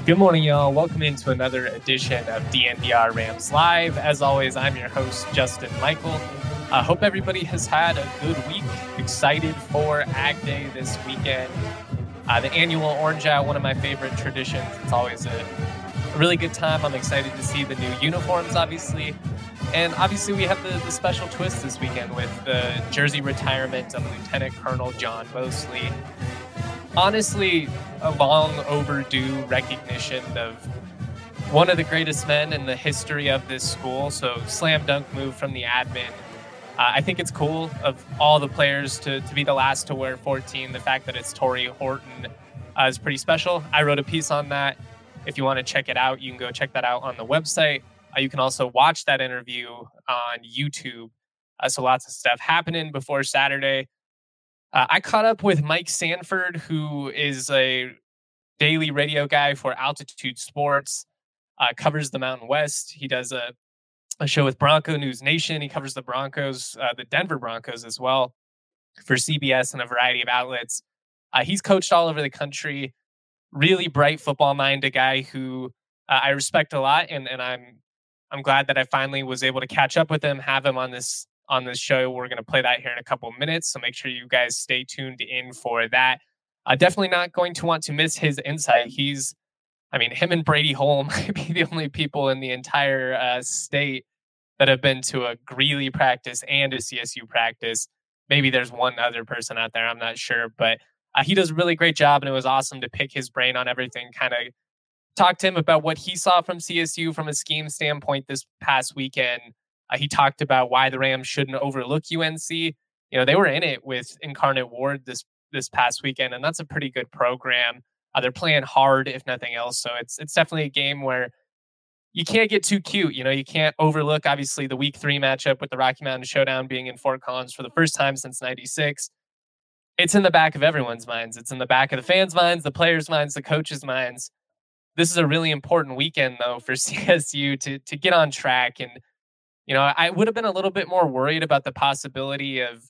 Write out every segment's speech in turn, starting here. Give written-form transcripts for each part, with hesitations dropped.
Good morning, y'all. Welcome into another edition of DNVR Rams Live. As always, I'm your host, Justin Michael. I hope everybody has had a good week. Excited for Ag Day this weekend. The annual Orange Out, one of my favorite traditions. It's always a really good time. I'm excited to see the new uniforms, obviously. And obviously, we have the special twist this weekend with the jersey retirement of Lieutenant Colonel John Mosley. Honestly, a long overdue recognition of one of the greatest men in the history of this school. So slam dunk move from the admin. I think it's cool of all the players to be the last to wear 14. The fact that it's Torrey Horton is pretty special. I wrote a piece on that. If you want to check it out, you can go check that out on the website. You can also watch that interview on YouTube. So lots of stuff happening before Saturday. I caught up with Mike Sanford, who is a daily radio guy for Altitude Sports, covers the Mountain West. He does a show with Bronco News Nation. He covers the Broncos, the Denver Broncos as well, for CBS and a variety of outlets. He's coached all over the country. Really bright football mind, a guy who I respect a lot, and I'm glad that I finally was able to catch up with him, have him on this show. We're going to play that here in a couple of minutes, so make sure you guys stay tuned in for that. Definitely not going to want to miss his insight. Him and Brady Hole might be the only people in the entire state that have been to a Greeley practice and a CSU practice. Maybe there's one other person out there, I'm not sure, but he does a really great job, and it was awesome to pick his brain on everything, kind of talk to him about what he saw from CSU from a scheme standpoint this past weekend. He talked about why the Rams shouldn't overlook UNC. You know, they were in it with Incarnate Word this past weekend, and that's a pretty good program. They're playing hard, if nothing else. So it's definitely a game where you can't get too cute. You know, you can't overlook, obviously, the Week 3 matchup with the Rocky Mountain Showdown being in Fort Collins for the first time since '96. It's in the back of everyone's minds. It's in the back of the fans' minds, the players' minds, the coaches' minds. This is a really important weekend, though, for CSU to get on track. And you know, I would have been a little bit more worried about the possibility of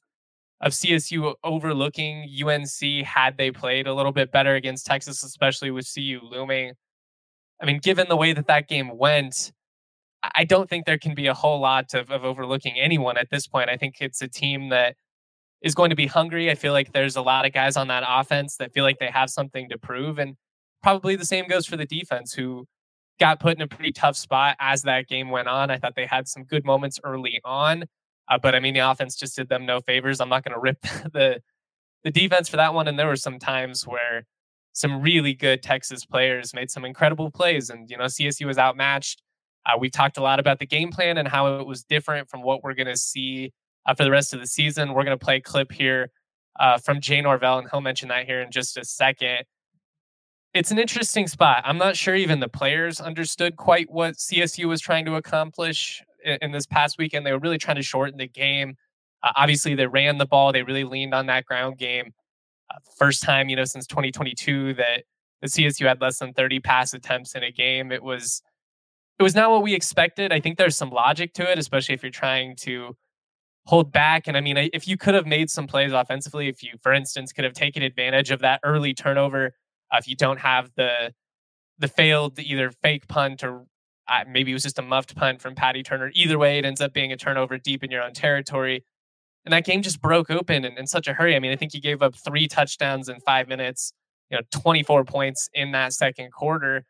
CSU overlooking UNC had they played a little bit better against Texas, especially with CU looming. I mean, given the way that game went, I don't think there can be a whole lot of overlooking anyone at this point. I think it's a team that is going to be hungry. I feel like there's a lot of guys on that offense that feel like they have something to prove. And probably the same goes for the defense, who got put in a pretty tough spot as that game went on. I thought they had some good moments early on, but I mean, the offense just did them no favors. I'm not going to rip the defense for that one. And there were some times where some really good Texas players made some incredible plays, and, you know, CSU was outmatched. We talked a lot about the game plan and how it was different from what we're going to see for the rest of the season. We're going to play a clip here from Jay Norvell, and he'll mention that here in just a second. It's an interesting spot. I'm not sure even the players understood quite what CSU was trying to accomplish in this past weekend. They were really trying to shorten the game. Obviously, they ran the ball. They really leaned on that ground game. First time, you know, since 2022 that the CSU had less than 30 pass attempts in a game. It was not what we expected. I think there's some logic to it, especially if you're trying to hold back. And I mean, if you could have made some plays offensively, if you, for instance, could have taken advantage of that early turnover, if you don't have the failed either fake punt or maybe it was just a muffed punt from Patty Turner. Either way, it ends up being a turnover deep in your own territory. And that game just broke open in such a hurry. I mean, I think he gave up 3 touchdowns in 5 minutes, 24 points in that second quarter.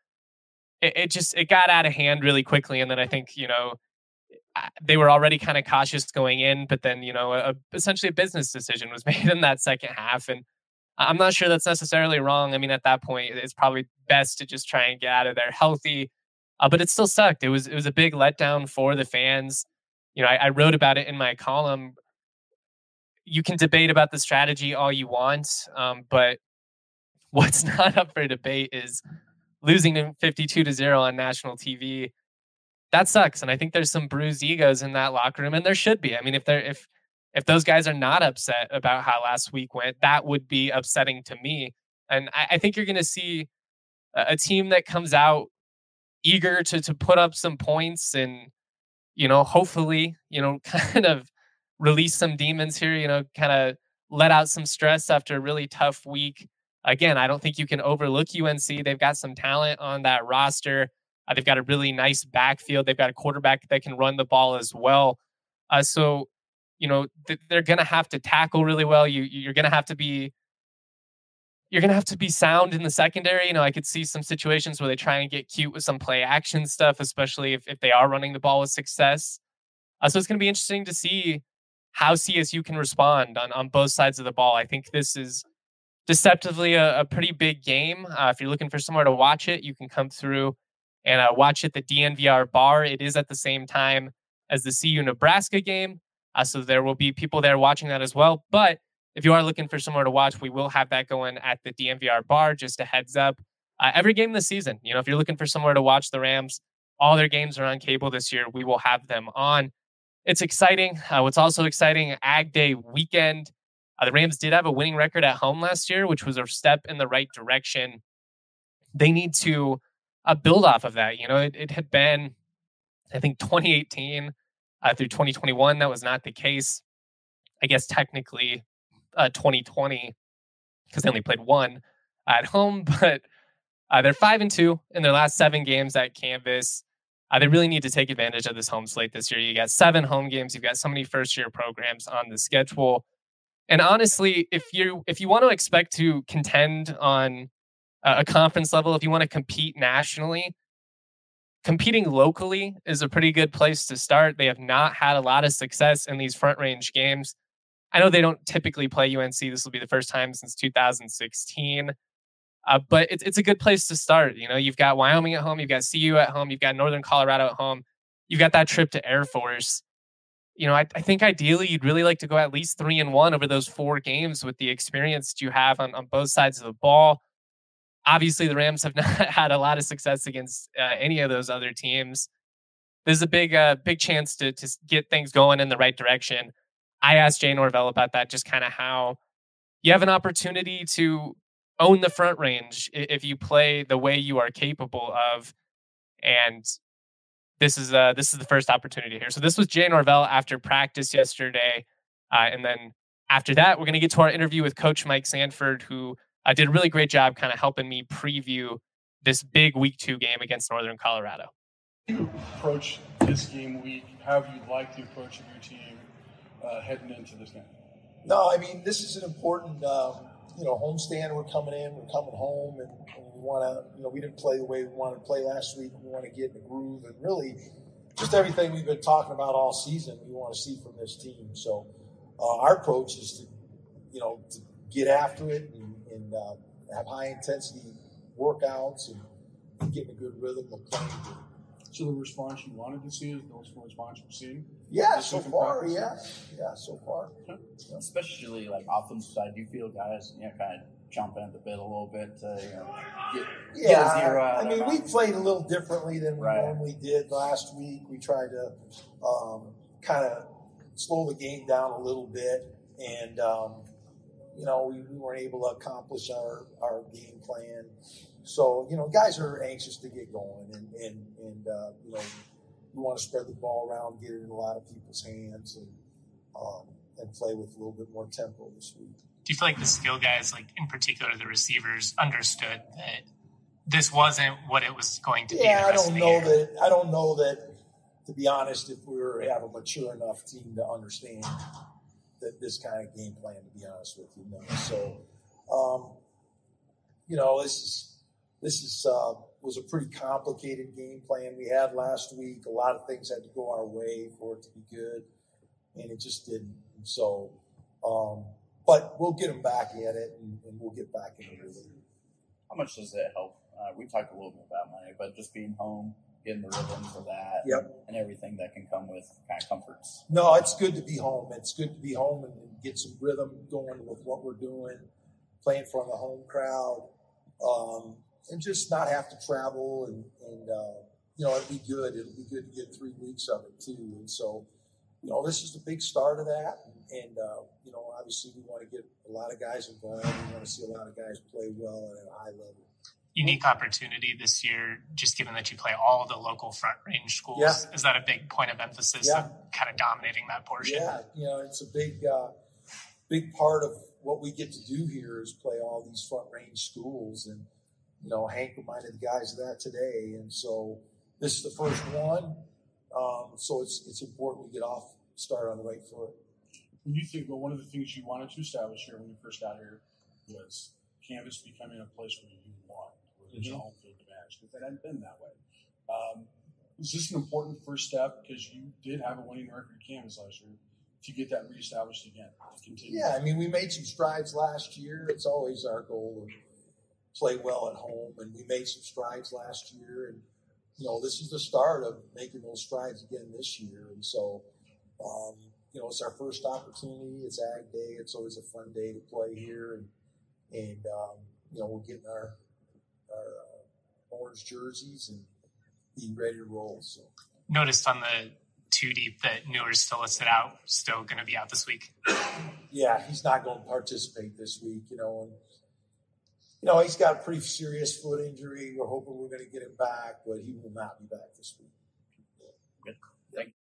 It got out of hand really quickly. And then I think, they were already kind of cautious going in, but then, essentially a business decision was made in that second half. And I'm not sure that's necessarily wrong. I mean, at that point, it's probably best to just try and get out of there healthy. But it still sucked. It was a big letdown for the fans. I wrote about it in my column. You can debate about the strategy all you want, but what's not up for debate is losing 52-0 on national TV. That sucks, and I think there's some bruised egos in that locker room, and there should be. I mean, if those guys are not upset about how last week went, that would be upsetting to me. And I think you're going to see a team that comes out eager to put up some points and, hopefully, kind of release some demons here, kind of let out some stress after a really tough week. Again, I don't think you can overlook UNC. They've got some talent on that roster. They've got a really nice backfield. They've got a quarterback that can run the ball as well. So, they're going to have to tackle really well. You're going to have to be sound in the secondary. I could see some situations where they try and get cute with some play action stuff, especially if they are running the ball with success. So it's going to be interesting to see how CSU can respond on both sides of the ball. I think this is deceptively a pretty big game. If you're looking for somewhere to watch it, you can come through and watch at the DNVR bar. It is at the same time as the CU Nebraska game. So there will be people there watching that as well. But if you are looking for somewhere to watch, we will have that going at the DNVR bar. Just a heads up. Every game this season, if you're looking for somewhere to watch the Rams, all their games are on cable this year. We will have them on. It's exciting. What's also exciting, Ag Day weekend. The Rams did have a winning record at home last year, which was a step in the right direction. They need to build off of that. It had been, I think, 2018 through 2021. That was not the case. I guess technically 2020, because they only played one at home, but they're 5-2 in their last 7 games at Canvas. They really need to take advantage of this home slate this year. You got 7 home games. You've got so many first-year programs on the schedule. And honestly, if you want to expect to contend on a conference level, if you want to compete nationally, competing locally is a pretty good place to start. They have not had a lot of success in these front range games. I know they don't typically play UNC. This will be the first time since 2016. But it's a good place to start. You've got Wyoming at home, you've got CU at home, you've got Northern Colorado at home, you've got that trip to Air Force. I think ideally you'd really like to go at least 3-1 over those 4 games with the experience that you have on both sides of the ball. Obviously, the Rams have not had a lot of success against any of those other teams. There's a big chance to get things going in the right direction. I asked Jay Norvell about that, just kind of how you have an opportunity to own the front range if you play the way you are capable of. And this is the first opportunity here. So this was Jay Norvell after practice yesterday. And then after that, we're going to get to our interview with Coach Mike Sanford, who did a really great job kind of helping me preview this big week 2 game against Northern Colorado. You approach this game week, how you'd like to approach your team heading into this game? No, I mean, this is an important, homestand. We're coming home, and we want to, we didn't play the way we wanted to play last week. We want to get in the groove, and really just everything we've been talking about all season, we want to see from this team. So our approach is to get after it and have high intensity workouts and get in a good rhythm of playing. So the response you wanted to see is the response you're seeing? Yeah, so far, yeah, so far. Yeah. Especially like offensive side, do you feel guys, kind of jumping at the bit a little bit to, get a 0 out? I mean, we played a little differently than we normally did last week. We tried to kind of slow the game down a little bit, and we weren't able to accomplish our game plan. So, guys are anxious to get going, and we want to spread the ball around, get it in a lot of people's hands, and play with a little bit more tempo this week. Do you feel like the skill guys, like in particular the receivers, understood that this wasn't what it was going to be? Yeah, I don't know that, to be honest, if we have a mature enough team to understand that this kind of game plan, to be honest with you. So, this was a pretty complicated game plan we had last week. A lot of things had to go our way for it to be good, and it just didn't. And so, but we'll get them back at it, and we'll get back into it. How much does it help? We talked a little bit about money, but just being home, getting the rhythm for that, and everything that can come with kind of comforts. No, it's good to be home. It's good to be home and get some rhythm going with what we're doing, playing for the home crowd. And just not have to travel, and it'd be good. It'll be good to get 3 weeks of it too. And so, this is the big start of that. And obviously we want to get a lot of guys involved. We want to see a lot of guys play well and at a high level. Unique opportunity this year, just given that you play all the local front range schools. Yeah. Is that a big point of emphasis of kind of dominating that portion? Yeah, it's a big part of what we get to do here is play all these Front Range schools, and Hank reminded the guys of that today, and so this is the first one. So it's important we get off start on the right foot. When you think, one of the things you wanted to establish here when you first got here was Canvas becoming a place where you want, where there's a home field advantage, because that hadn't been that way. Is this an important first step, because you did have a winning record at Canvas last year, to get that reestablished again, to continue? Yeah, I mean, we made some strides last year. It's always our goal to play well at home, and we made some strides last year, and this is the start of making those strides again this year. And so, it's our first opportunity. It's Ag Day. It's always a fun day to play here, and we're getting our orange jerseys and being ready to roll. So, noticed on the 2 deep that Newer's still listed out, still going to be out this week. Yeah, he's not going to participate this week. He's got a pretty serious foot injury. We're hoping we're going to get him back, but he will not be back this week. Good. Thank you.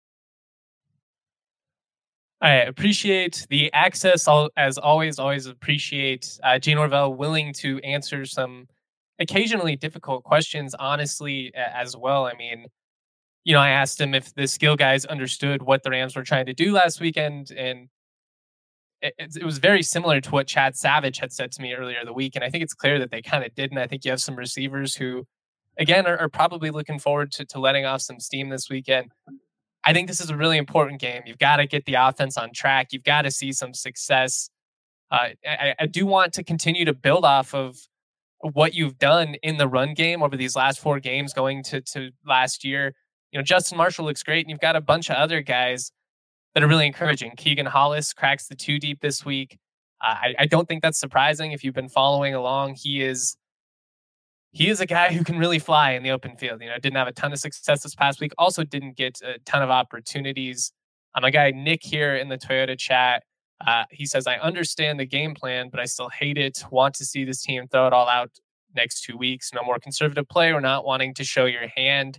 I appreciate the access. As always appreciate Gene Norvell willing to answer some occasionally difficult questions, honestly, as well. I mean, I asked him if the skill guys understood what the Rams were trying to do last weekend, and it was very similar to what Chad Savage had said to me earlier in the week. And I think it's clear that they kind of didn't. I think you have some receivers who, again, are probably looking forward to letting off some steam this weekend. I think this is a really important game. You've got to get the offense on track. You've got to see some success. I do want to continue to build off of what you've done in the run game over these last 4 games going to last year. Justin Marshall looks great, and you've got a bunch of other guys that are really encouraging. Keegan Hollis cracks the 2 deep this week. I don't think that's surprising if you've been following along. He is a guy who can really fly in the open field. Didn't have a ton of success this past week. Also didn't get a ton of opportunities. My guy Nick here in the Toyota chat, he says, I understand the game plan, but I still hate it. Want to see this team throw it all out next 2 weeks. No more conservative play or not wanting to show your hand.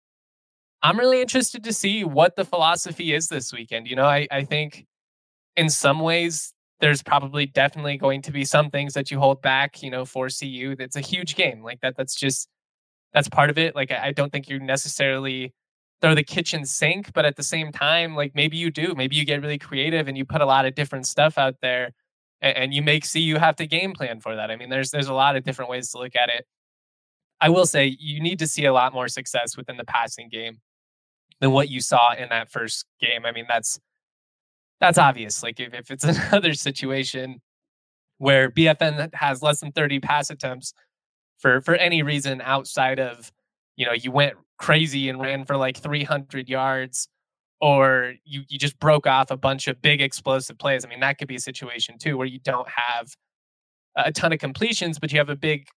I'm really interested to see what the philosophy is this weekend. I think in some ways there's probably definitely going to be some things that you hold back, for CU. That's a huge game. Like that's part of it. Like, I don't think you necessarily throw the kitchen sink, but at the same time, like maybe you do. Maybe you get really creative and you put a lot of different stuff out there and you make CU have to game plan for that. I mean, there's a lot of different ways to look at it. I will say you need to see a lot more success within the passing game than what you saw in that first game. I mean, that's obvious. Like if it's another situation where BFN has less than 30 pass attempts for any reason outside of, you went crazy and ran for like 300 yards, or you just broke off a bunch of big explosive plays. I mean, that could be a situation too, where you don't have a ton of completions, but you have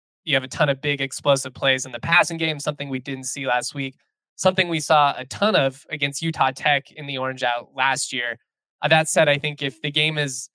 a ton of big explosive plays in the passing game, something we didn't see last week. Something we saw a ton of against Utah Tech in the Orange Out last year. That said, I think if the game is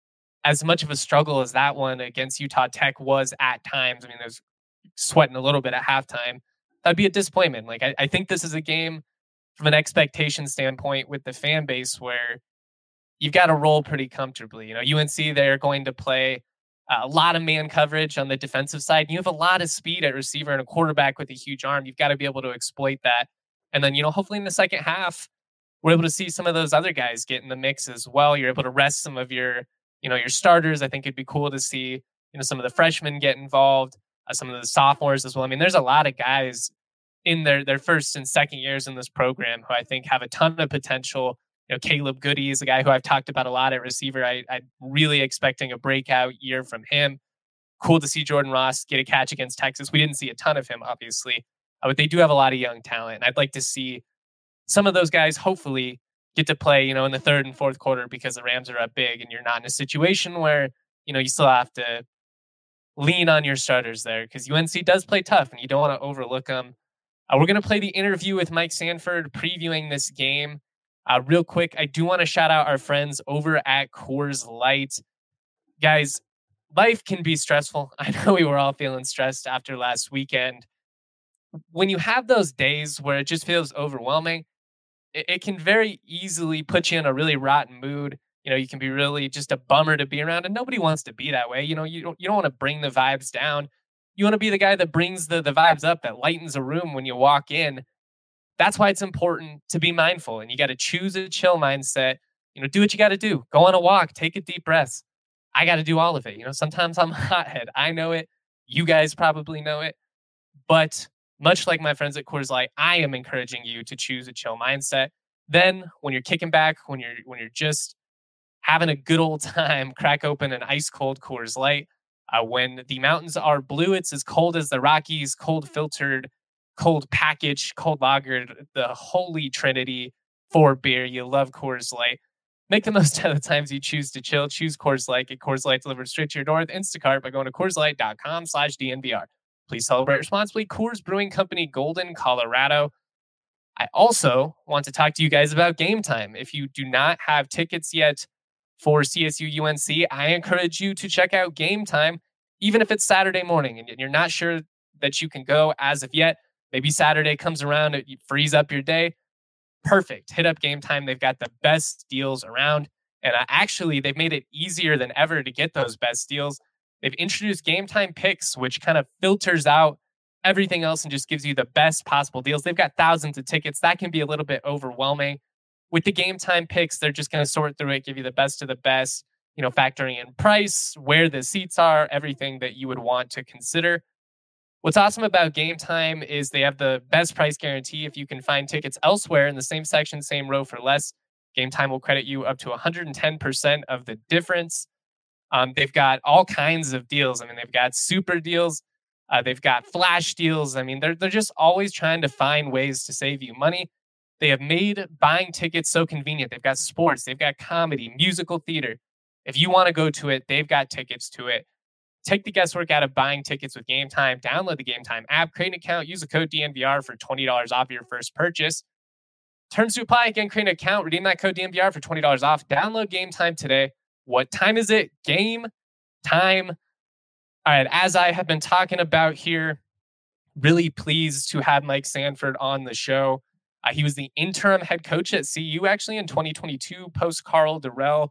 as much of a struggle as that one against Utah Tech was at times, I mean, there's sweating a little bit at halftime, that'd be a disappointment. Like, I think this is a game from an expectation standpoint with the fan base where you've got to roll pretty comfortably. UNC, they're going to play a lot of man coverage on the defensive side. You have a lot of speed at receiver and a quarterback with a huge arm. You've got to be able to exploit that. And then, hopefully in the second half, we're able to see some of those other guys get in the mix as well. You're able to rest some of your starters. I think it'd be cool to see, some of the freshmen get involved, some of the sophomores as well. I mean, there's a lot of guys in their first and second years in this program who I think have a ton of potential. Caleb Goody is a guy who I've talked about a lot at receiver. I'm really expecting a breakout year from him. Cool to see Jordan Ross get a catch against Texas. We didn't see a ton of him, obviously, but they do have a lot of young talent. And I'd like to see some of those guys hopefully get to play, in the third and fourth quarter, because the Rams are up big and you're not in a situation where, you still have to lean on your starters there, because UNC does play tough and you don't want to overlook them. We're going to play the interview with Mike Sanford previewing this game. Real quick, I do want to shout out our friends over at Coors Light. Guys, life can be stressful. I know we were all feeling stressed after last weekend. When you have those days where it just feels overwhelming, it can very easily put you in a really rotten mood. You can be really just a bummer to be around, and nobody wants to be that way. You don't want to bring the vibes down. You want to be the guy that brings the vibes up, that lightens a room when you walk in. That's why it's important to be mindful, and you got to choose a chill mindset. Do what you got to do. Go on a walk, take a deep breath. I got to do all of it. Sometimes I'm a hothead. I know it. You guys probably know it. But much like my friends at Coors Light, I am encouraging you to choose a chill mindset. Then when you're kicking back, when you're just having a good old time, crack open an ice cold Coors Light. When the mountains are blue, it's as cold as the Rockies, cold filtered, cold packaged, cold lagered, the holy trinity for beer. You love Coors Light. Make the most out of the times you choose to chill. Choose Coors Light. Get Coors Light delivered straight to your door with Instacart by going to CoorsLight.com/DNVR. Please celebrate responsibly. Coors Brewing Company, Golden, Colorado. I also want to talk to you guys about Game Time. If you do not have tickets yet for CSU UNC, I encourage you to check out Game Time, even if it's Saturday morning and you're not sure that you can go as of yet. Maybe Saturday comes around, it frees up your day. Perfect. Hit up Game Time. They've got the best deals around. And actually, they've made it easier than ever to get those best deals. They've introduced Game Time Picks, which kind of filters out everything else and just gives you the best possible deals. They've got thousands of tickets. That can be a little bit overwhelming. With the Game Time Picks, they're just going to sort through it, give you the best of the best, factoring in price, where the seats are, everything that you would want to consider. What's awesome about Game Time is they have the best price guarantee. If you can find tickets elsewhere in the same section, same row for less, Game Time will credit you up to 110% of the difference. They've got all kinds of deals. They've got super deals. They've got flash deals. They're just always trying to find ways to save you money. They have made buying tickets so convenient. They've got sports. They've got comedy, musical theater. If you want to go to it, they've got tickets to it. Take the guesswork out of buying tickets with Game Time. Download the Game Time app, create an account, use the code DNVR for $20 off your first purchase. Terms to apply. Again, create an account, redeem that code DNVR for $20 off. Download Game Time today. What time is it? Game time. All right, as I have been talking about here, really pleased to have Mike Sanford on the show. He was the interim head coach at CU actually in 2022, post Karl Dorrell.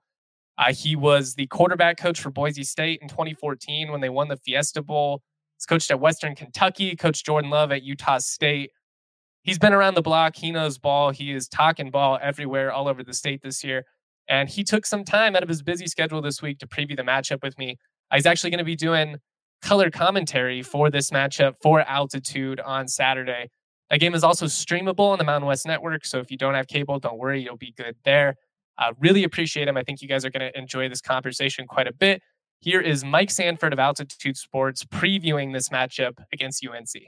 He was the quarterback coach for Boise State in 2014 when they won the Fiesta Bowl. He's coached at Western Kentucky, coached Jordan Love at Utah State. He's been around the block. He knows ball. He is talking ball everywhere, all over the state this year. And he took some time out of his busy schedule this week to preview the matchup with me. He's actually going to be doing color commentary for this matchup for Altitude on Saturday. That game is also streamable on the Mountain West Network. So if you don't have cable, don't worry, you'll be good there. Really appreciate him. I think you guys are going to enjoy this conversation quite a bit. Here is Mike Sanford of Altitude Sports previewing this matchup against UNC.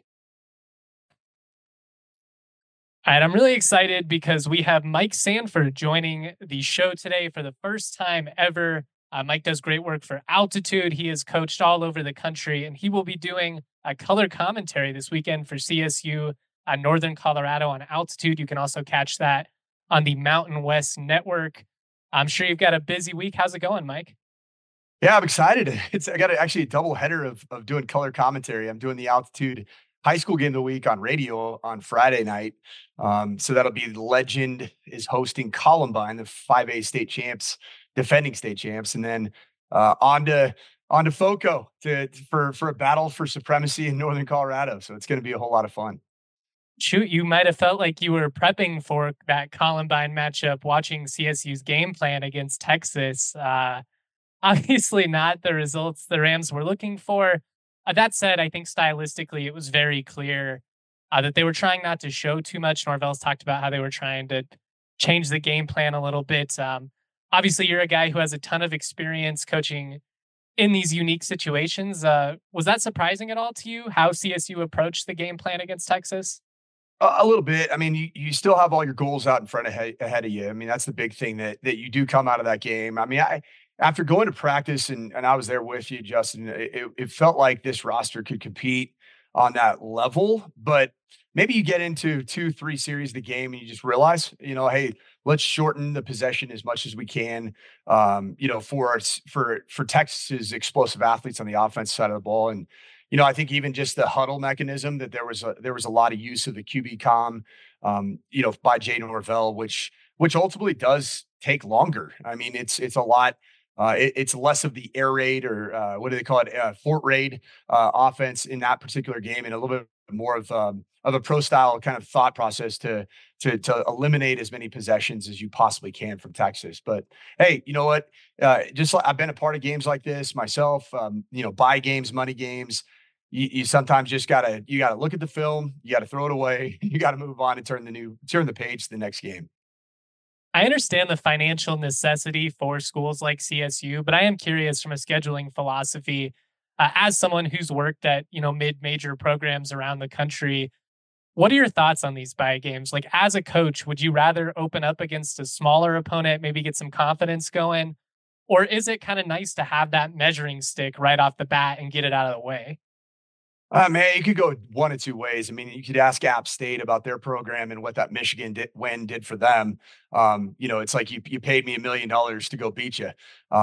All right, I'm really excited because we have Mike Sanford joining the show today for the first time ever. Mike does great work for Altitude. He has coached all over the country, and he will be doing a color commentary this weekend for CSU Northern Colorado on Altitude. You can also catch that on the Mountain West Network. I'm sure you've got a busy week. How's it going, Mike? Yeah, I'm excited. I got actually a double header of doing color commentary. I'm doing the Altitude high school game of the week on radio on Friday night. So that'll be Legend is hosting Columbine, the 5A state champs, defending state champs. And then on to FOCO for a battle for supremacy in Northern Colorado. So it's going to be a whole lot of fun. Shoot, you might have felt like you were prepping for that Columbine matchup, watching CSU's game plan against Texas. Obviously not the results the Rams were looking for. That said, I think stylistically it was very clear that they were trying not to show too much. Norvell's talked about how they were trying to change the game plan a little bit. Obviously, you're a guy who has a ton of experience coaching in these unique situations. Was that surprising at all to you, how CSU approached the game plan against Texas? A little bit. You still have all your goals out in front ahead of you. That's the big thing that you do come out of that game. After going to practice and I was there with you, Justin, it felt like this roster could compete on that level, but maybe you get into 2-3 series of the game and you just realize, hey, let's shorten the possession as much as we can, for Texas's explosive athletes on the offense side of the ball. And, I think even just the huddle mechanism that there was a lot of use of the QB comm, by Jay Norvell, which ultimately does take longer. I mean, it's a lot. It's less of the air raid or what do they call it, fort raid offense in that particular game, and a little bit more of a pro style kind of thought process to eliminate as many possessions as you possibly can from Texas. But hey, you know what? Just like I've been a part of games like this myself. Buy games, money games. You sometimes just gotta look at the film. You gotta throw it away. You gotta move on and turn the page to the next game. I understand the financial necessity for schools like CSU, but I am curious from a scheduling philosophy, as someone who's worked at mid-major programs around the country. What are your thoughts on these bye games? Like, as a coach, would you rather open up against a smaller opponent, maybe get some confidence going, or is it kind of nice to have that measuring stick right off the bat and get it out of the way? Man, you could go one of two ways. I mean, you could ask App State about their program and what that Michigan win did for them. It's like you paid me $1 million to go beat you.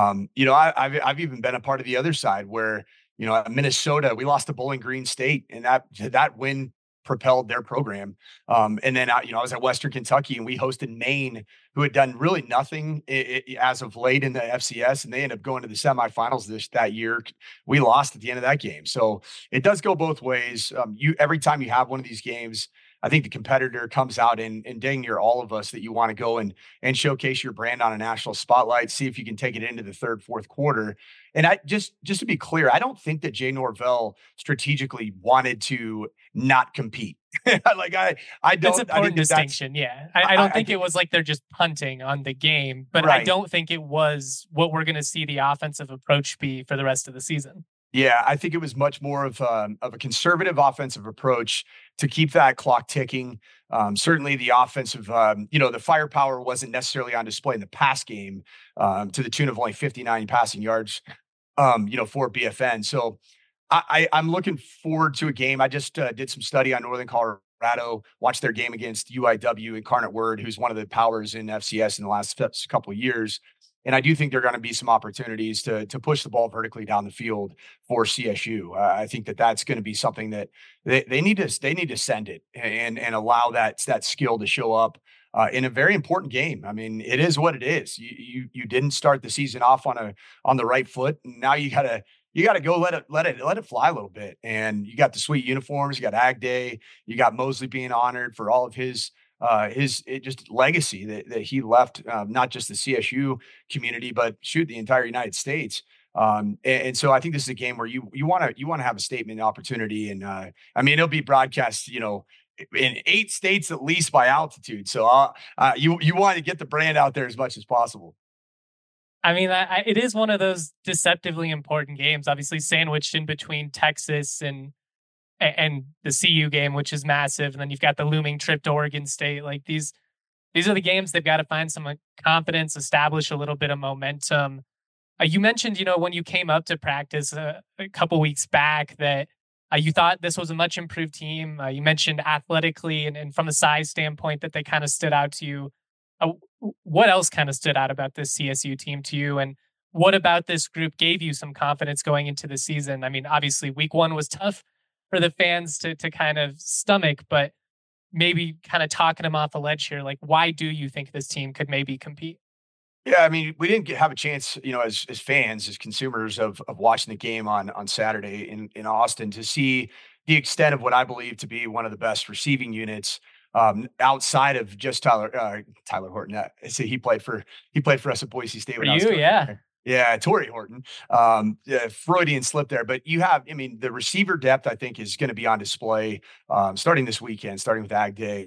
I've even been a part of the other side where Minnesota, we lost to Bowling Green State, and that win propelled their program. And then I was at Western Kentucky, and we hosted Maine, who had done really nothing as of late in the FCS, and they ended up going to the semifinals that year. We lost at the end of that game, so it does go both ways. Every time you have one of these games, I think the competitor comes out and dang near all of us that you want to go and showcase your brand on a national spotlight, see if you can take it into the third, fourth quarter. And I just to be clear, I don't think that Jay Norvell strategically wanted to not compete. I don't. That's an important distinction. Yeah, I don't think it was like they're just punting on the game, but right. I don't think it was what we're going to see the offensive approach be for the rest of the season. Yeah, I think it was much more of a conservative offensive approach to keep that clock ticking. Certainly the offensive, the firepower wasn't necessarily on display in the pass game to the tune of only 59 passing yards, for BFN. So I'm looking forward to a game. I just did some study on Northern Colorado, watched their game against UIW, Incarnate Word, who's one of the powers in FCS in the last couple of years. And I do think there are going to be some opportunities to push the ball vertically down the field for CSU. I think that's going to be something that they need to send it and allow that skill to show up in a very important game. I mean, it is what it is. You didn't start the season off on the right foot, and now you gotta go let it fly a little bit. And you got the sweet uniforms, you got Ag Day, you got Mosley being honored for all of his just legacy that he left, not just the CSU community, but the entire United States. And so I think this is a game where you want to have a statement opportunity. And it'll be broadcast, in 8 states, at least by altitude. So you want to get the brand out there as much as possible. I mean, it is one of those deceptively important games, obviously sandwiched in between Texas and the CU game, which is massive. And then you've got the looming trip to Oregon State. Like these are the games they've got to find some confidence, establish a little bit of momentum. You mentioned, when you came up to practice a couple weeks back that you thought this was a much improved team. You mentioned athletically and from a size standpoint that they kind of stood out to you. What else kind of stood out about this CSU team to you? And what about this group gave you some confidence going into the season? I mean, obviously week 1 was tough for the fans to kind of stomach, but maybe kind of talking them off a ledge here. Like, why do you think this team could maybe compete? Yeah, I mean, we didn't have a chance, as fans, as consumers of watching the game on Saturday in Austin to see the extent of what I believe to be one of the best receiving units outside of just Tyler Horton. So he played for us at Boise State. For you, yeah. Yeah, Torrey Horton, Freudian slip there. But the receiver depth, I think, is going to be on display starting this weekend, starting with Ag Day.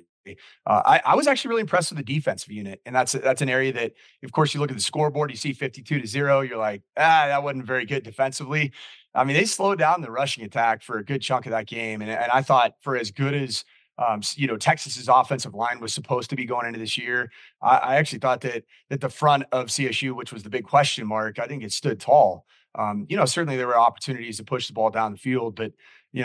I was actually really impressed with the defensive unit, and that's an area that, of course, you look at the scoreboard, you see 52-0, you're like, that wasn't very good defensively. I mean, they slowed down the rushing attack for a good chunk of that game, and I thought for as good as Texas's offensive line was supposed to be going into this year, I actually thought that the front of CSU, which was the big question mark, I think it stood tall. Certainly there were opportunities to push the ball down the field, but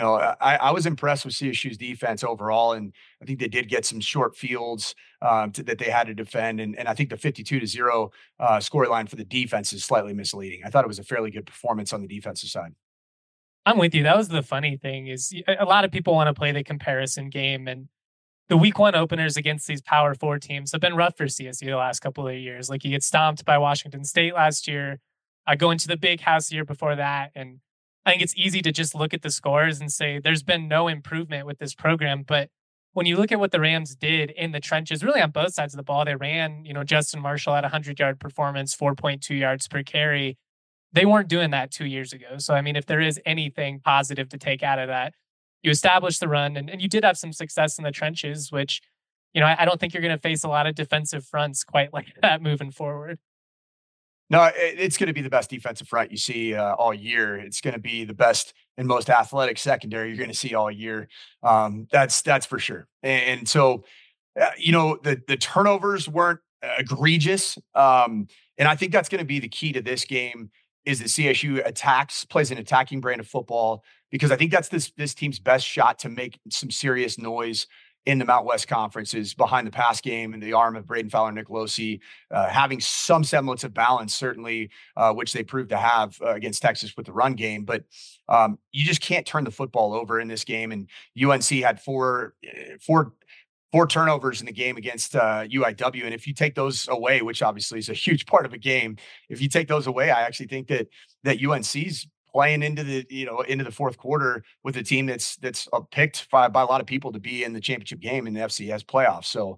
I was impressed with CSU's defense overall, and I think they did get some short fields that they had to defend, and I think the 52-0 scoreline for the defense is slightly misleading. I thought it was a fairly good performance on the defensive side. I'm with you. That was the funny thing is a lot of people want to play the comparison game, and the week one openers against these Power 4 teams have been rough for CSU the last couple of years. Like, you get stomped by Washington State last year, going to the Big House the year before that. And I think it's easy to just look at the scores and say there's been no improvement with this program. But when you look at what the Rams did in the trenches, really on both sides of the ball, they ran, Justin Marshall at 100-yard performance, 4.2 yards per carry. They weren't doing that 2 years ago. So, I mean, if there is anything positive to take out of that, you established the run, and you did have some success in the trenches, which, I don't think you're going to face a lot of defensive fronts quite like that moving forward. No, it's going to be the best defensive front you see all year. It's going to be the best and most athletic secondary you're going to see all year. That's for sure. And so, the turnovers weren't egregious. And I think that's going to be the key to this game is that CSU plays an attacking brand of football, because I think that's this team's best shot to make some serious noise in the Mountain West Conference is behind the pass game and the arm of Braden Fowler, Nick Losi, having some semblance of balance, certainly, which they proved to have against Texas with the run game. But you just can't turn the football over in this game. And UNC had four turnovers in the game against UIW. And if you take those away, which obviously is a huge part of a game, if you take those away, I actually think that UNC's playing into the fourth quarter with a team that's picked by a lot of people to be in the championship game in the FCS playoffs. So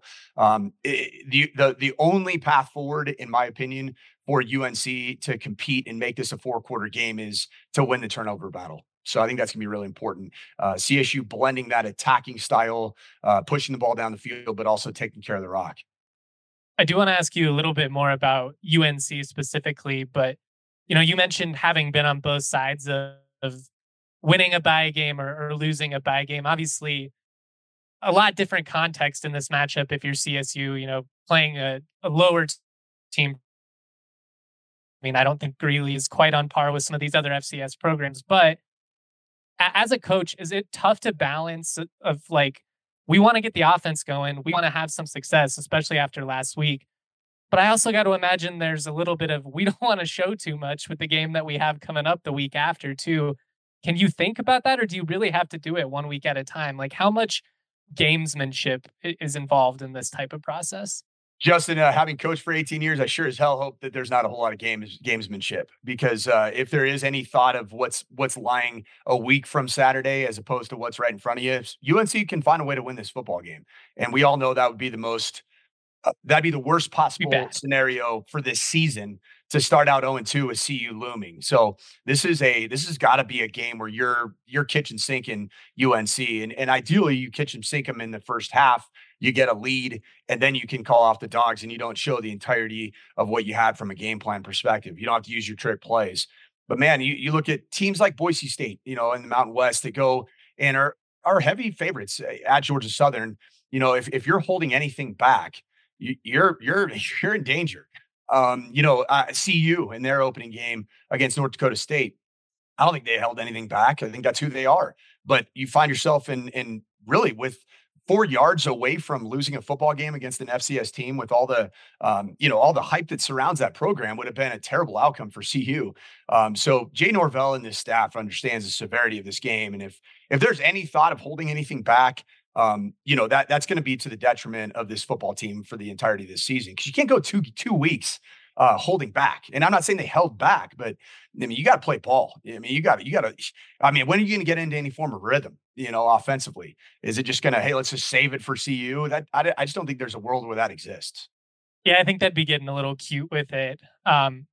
the only path forward, in my opinion, for UNC to compete and make this a 4-quarter game is to win the turnover battle. So I think that's going to be really important. CSU blending that attacking style, pushing the ball down the field, but also taking care of the rock. I do want to ask you a little bit more about UNC specifically, but you mentioned having been on both sides of winning a bye game or losing a bye game. Obviously, a lot different context in this matchup if you're CSU, playing a lower team. I mean, I don't think Greeley is quite on par with some of these other FCS programs, but as a coach, is it tough to balance of like, we want to get the offense going, we want to have some success, especially after last week. But I also got to imagine there's a little bit of, we don't want to show too much with the game that we have coming up the week after too. Can you think about that, or do you really have to do it 1 week at a time? Like, how much gamesmanship is involved in this type of process? Justin, having coached for 18 years, I sure as hell hope that there's not a whole lot of gamesmanship, because if there is any thought of what's lying a week from Saturday as opposed to what's right in front of you, UNC can find a way to win this football game. And we all know that would be that'd be the worst possible scenario for this season, to start out 0-2 with CU looming. So this has got to be a game where you're kitchen sinking UNC, and ideally you kitchen sink them in the first half. You get a lead, and then you can call off the dogs, and you don't show the entirety of what you had from a game plan perspective. You don't have to use your trick plays. But man, you look at teams like Boise State, in the Mountain West, that go and are heavy favorites at Georgia Southern. If you're holding anything back, you're in danger. CU in their opening game against North Dakota State, I don't think they held anything back. I think that's who they are. But you find yourself in really with 4 yards away from losing a football game against an FCS team, with all the all the hype that surrounds that program, would have been a terrible outcome for CU. So Jay Norvell and his staff understands the severity of this game, and if there's any thought of holding anything back, that's going to be to the detriment of this football team for the entirety of this season, because you can't go two weeks holding back. And I'm not saying they held back, but I mean, you got to play ball. I mean, you got to, when are you going to get into any form of rhythm, offensively? Is it just going to, hey, let's just save it for CU? I just don't think there's a world where that exists. Yeah, I think that'd be getting a little cute with it. UNC,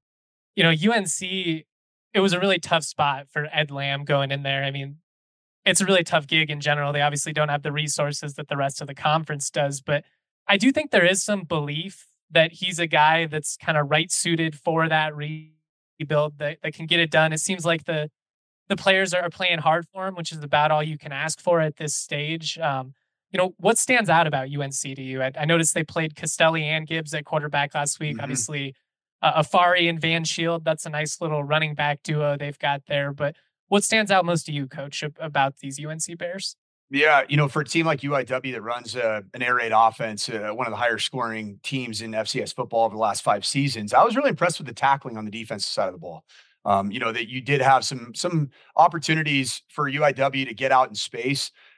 it was a really tough spot for Ed Lamb going in there. I mean, it's a really tough gig in general. They obviously don't have the resources that the rest of the conference does, but I do think there is some belief that he's a guy that's kind of right suited for that rebuild that can get it done. It seems like the players are playing hard for him, which is about all you can ask for at this stage. What stands out about UNC to you? I noticed they played Costelli and Gibbs at quarterback last week. Mm-hmm. Obviously, Afari and Van Shield, that's a nice little running back duo they've got there. But what stands out most to you, Coach, about these UNC Bears? Yeah, for a team like UIW that runs an air raid offense, one of the higher scoring teams in FCS football over the last 5 seasons, I was really impressed with the tackling on the defensive side of the ball. That you did have some opportunities for UIW to get out in space.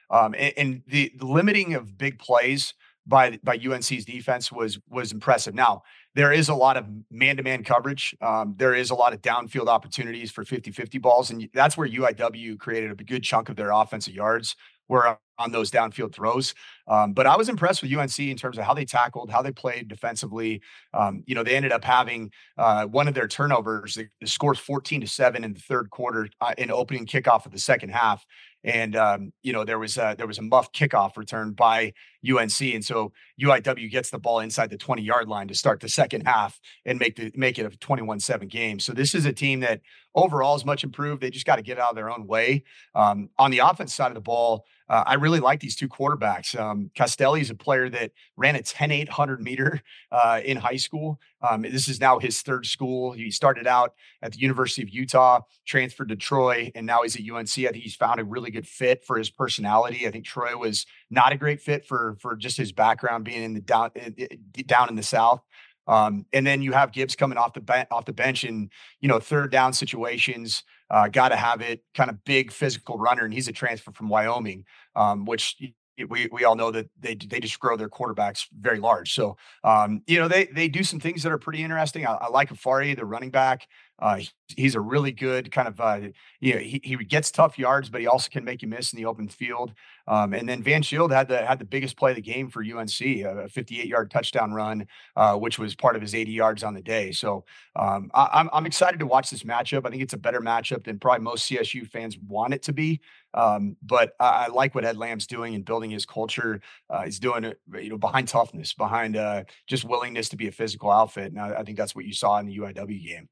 And the limiting of big plays by UNC's defense was impressive. Now, there is a lot of man-to-man coverage. There is a lot of downfield opportunities for 50-50 balls, and that's where UIW created a good chunk of their offensive yards were on those downfield throws. But I was impressed with UNC in terms of how they tackled, how they played defensively. They ended up having one of their turnovers. They scored 14-7 in the third quarter in opening kickoff of the second half. And there was a muffed kickoff return by UNC, and so UIW gets the ball inside the 20-yard line to start the second half and make it a 21-7 game. So this is a team that overall is much improved. They just got to get out of their own way. On the offense side of the ball, I really like these two quarterbacks. Castelli is a player that ran a 10.8 100-meter in high school. This is now his third school. He started out at the University of Utah, transferred to Troy, and now he's at UNC. I think he's found a really good fit for his personality. I think Troy was not a great fit for just his background being in the down in the South. And then you have Gibbs coming off the bench in, third down situations, got to have it, kind of big physical runner. And he's a transfer from Wyoming, which we all know that they just grow their quarterbacks very large. So, they do some things that are pretty interesting. I like Afari, the running back. He's a really good kind of, he gets tough yards, but he also can make you miss in the open field. And then Van Shield had the biggest play of the game for UNC, a 58-yard touchdown run, which was part of his 80 yards on the day. So I'm excited to watch this matchup. I think it's a better matchup than probably most CSU fans want it to be. But I like what Ed Lamb's doing and building his culture. He's doing it, behind toughness, behind just willingness to be a physical outfit. And I think that's what you saw in the UIW game.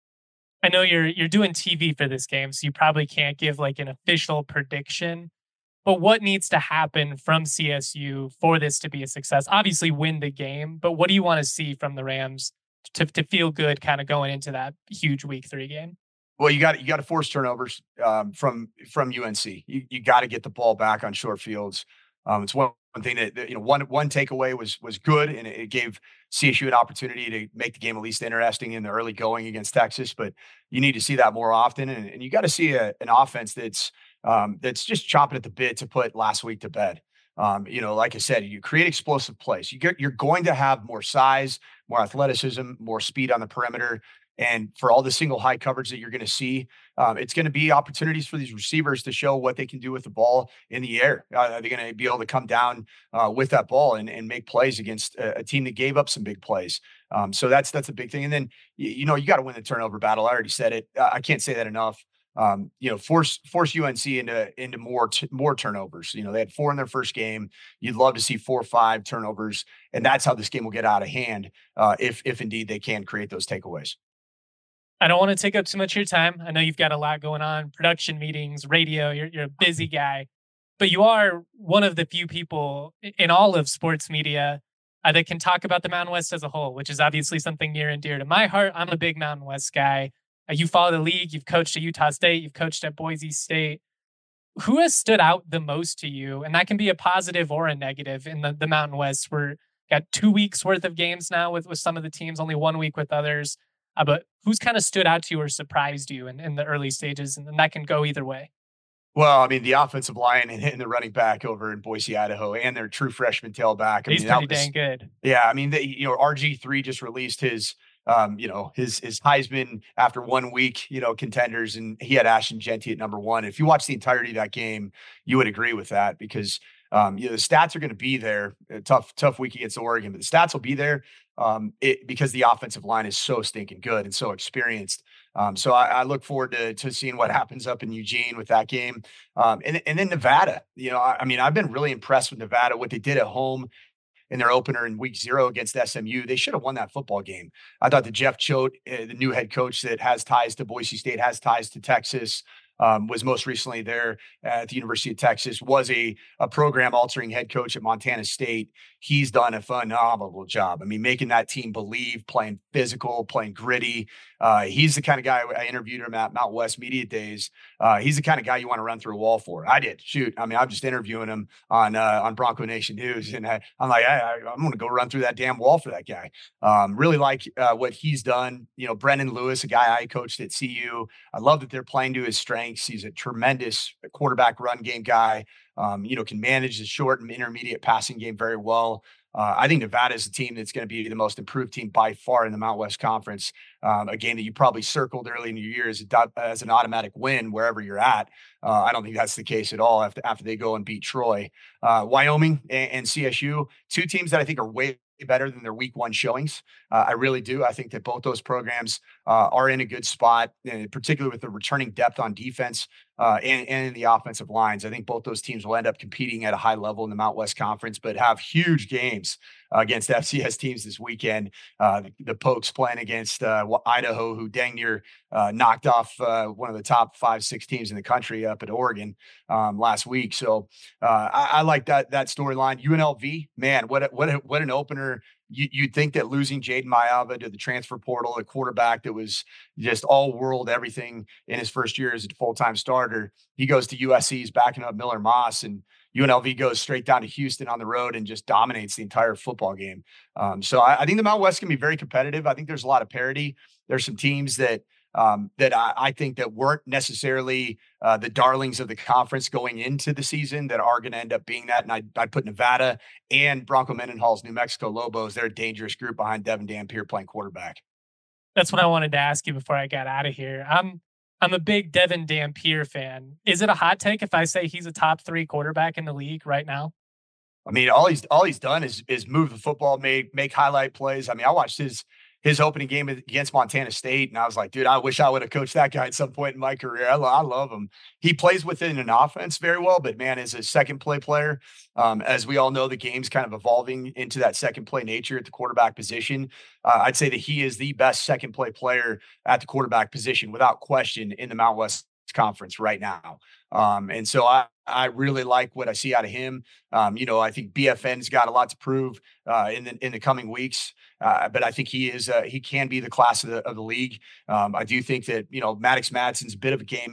I know you're doing TV for this game, so you probably can't give like an official prediction. But what needs to happen from CSU for this to be a success? Obviously, win the game, but what do you want to see from the Rams to feel good, kind of going into that huge Week 3 game? Well, you got to force turnovers from UNC. You got to get the ball back on short fields. It's one thing that one takeaway was good, and it gave CSU an opportunity to make the game at least interesting in the early going against Texas. But you need to see that more often, and you got to see an offense that's just chomping at the bit to put last week to bed. Like I said, you create explosive plays. You're going to have more size, more athleticism, more speed on the perimeter. And for all the single high coverage that you're going to see, it's going to be opportunities for these receivers to show what they can do with the ball in the air. They're going to be able to come down with that ball and make plays against a team that gave up some big plays. So that's a big thing. And then, you got to win the turnover battle. I already said it. I can't say that enough. Force UNC into more turnovers. They had 4 in their first game. You'd love to see 4 or 5 turnovers, and that's how this game will get out of hand if indeed they can create those takeaways. I don't want to take up too much of your time. I know you've got a lot going on, production meetings, radio. You're a busy guy, but you are one of the few people in all of sports media that can talk about the Mountain West as a whole, which is obviously something near and dear to my heart. I'm a big Mountain West guy. You follow the league. You've coached at Utah State. You've coached at Boise State. Who has stood out the most to you? And that can be a positive or a negative in the Mountain West. We're got 2 weeks worth of games now with some of the teams, only 1 week with others. But who's kind of stood out to you or surprised you in the early stages? And that can go either way. Well, I mean, the offensive line and the running back over in Boise, Idaho, and their true freshman tailback. He's pretty dang good. Yeah, I mean, RG3 just released his Heisman after 1 week, contenders, and he had Ashton Jeanty at number 1. If you watch the entirety of that game, you would agree with that because the stats are going to be there. A tough week against Oregon, but the stats will be there because the offensive line is so stinking good and so experienced. So I look forward to seeing what happens up in Eugene with that game. And then Nevada, I've been really impressed with Nevada, what they did at home in their opener in week 0 against SMU. They should have won that football game. I thought that Jeff Choate, the new head coach that has ties to Boise State, has ties to Texas, was most recently there at the University of Texas, was a program-altering head coach at Montana State. He's done a phenomenal job. I mean, making that team believe, playing physical, playing gritty. He's the kind of guy, I interviewed him at Mountain West Media Days. He's the kind of guy you want to run through a wall for. I did. Shoot. I mean, I'm just interviewing him on Bronco Nation News. And I'm like, I'm going to go run through that damn wall for that guy. Really like what he's done. Brendan Lewis, a guy I coached at CU. I love that they're playing to his strengths. lengths. He's a tremendous quarterback run game guy. Can manage the short and intermediate passing game very well. I think Nevada is a team that's going to be the most improved team by far in the Mountain West Conference. A game that you probably circled early in your year as an automatic win wherever you're at. I don't think that's the case at all after they go and beat Troy. Wyoming and CSU, two teams that I think are way better than their week one showings. I really do. I think that both those programs are in a good spot, particularly with the returning depth on defense and in the offensive lines. I think both those teams will end up competing at a high level in the Mountain West Conference, but have huge games against FCS teams this weekend. The Pokes playing against Idaho, who dang near knocked off one of the top 5-6 teams in the country up at Oregon last week. So I like that storyline. UNLV, man, what an opener. You'd think that losing Jaden Mayava to the transfer portal, a quarterback that was just all world, everything in his first year as a full-time starter, he goes to USC, he's backing up Miller Moss, and UNLV goes straight down to Houston on the road and just dominates the entire football game. So I think the Mountain West can be very competitive. I think there's a lot of parity. There's some teams that I think that weren't necessarily the darlings of the conference going into the season that are going to end up being that. And I'd put Nevada and Bronco Mendenhall's New Mexico Lobos. They're a dangerous group behind Devin Dampier playing quarterback. That's what I wanted to ask you before I got out of here. I'm a big Devin Dampier fan. Is it a hot take if I say he's a top 3 quarterback in the league right now? I mean, all he's done is move the football, make highlight plays. I mean, I watched his opening game against Montana State, and I was like, dude, I wish I would have coached that guy at some point in my career. I love him. He plays within an offense very well, but man, as a second play player, as we all know, the game's kind of evolving into that second play nature at the quarterback position. I'd say that he is the best second play player at the quarterback position without question in the Mountain West Conference right now. And so I really like what I see out of him. I think BFN's got a lot to prove in the coming weeks. But I think he can be the class of the league. I do think that, Maddox Madsen's a bit of a game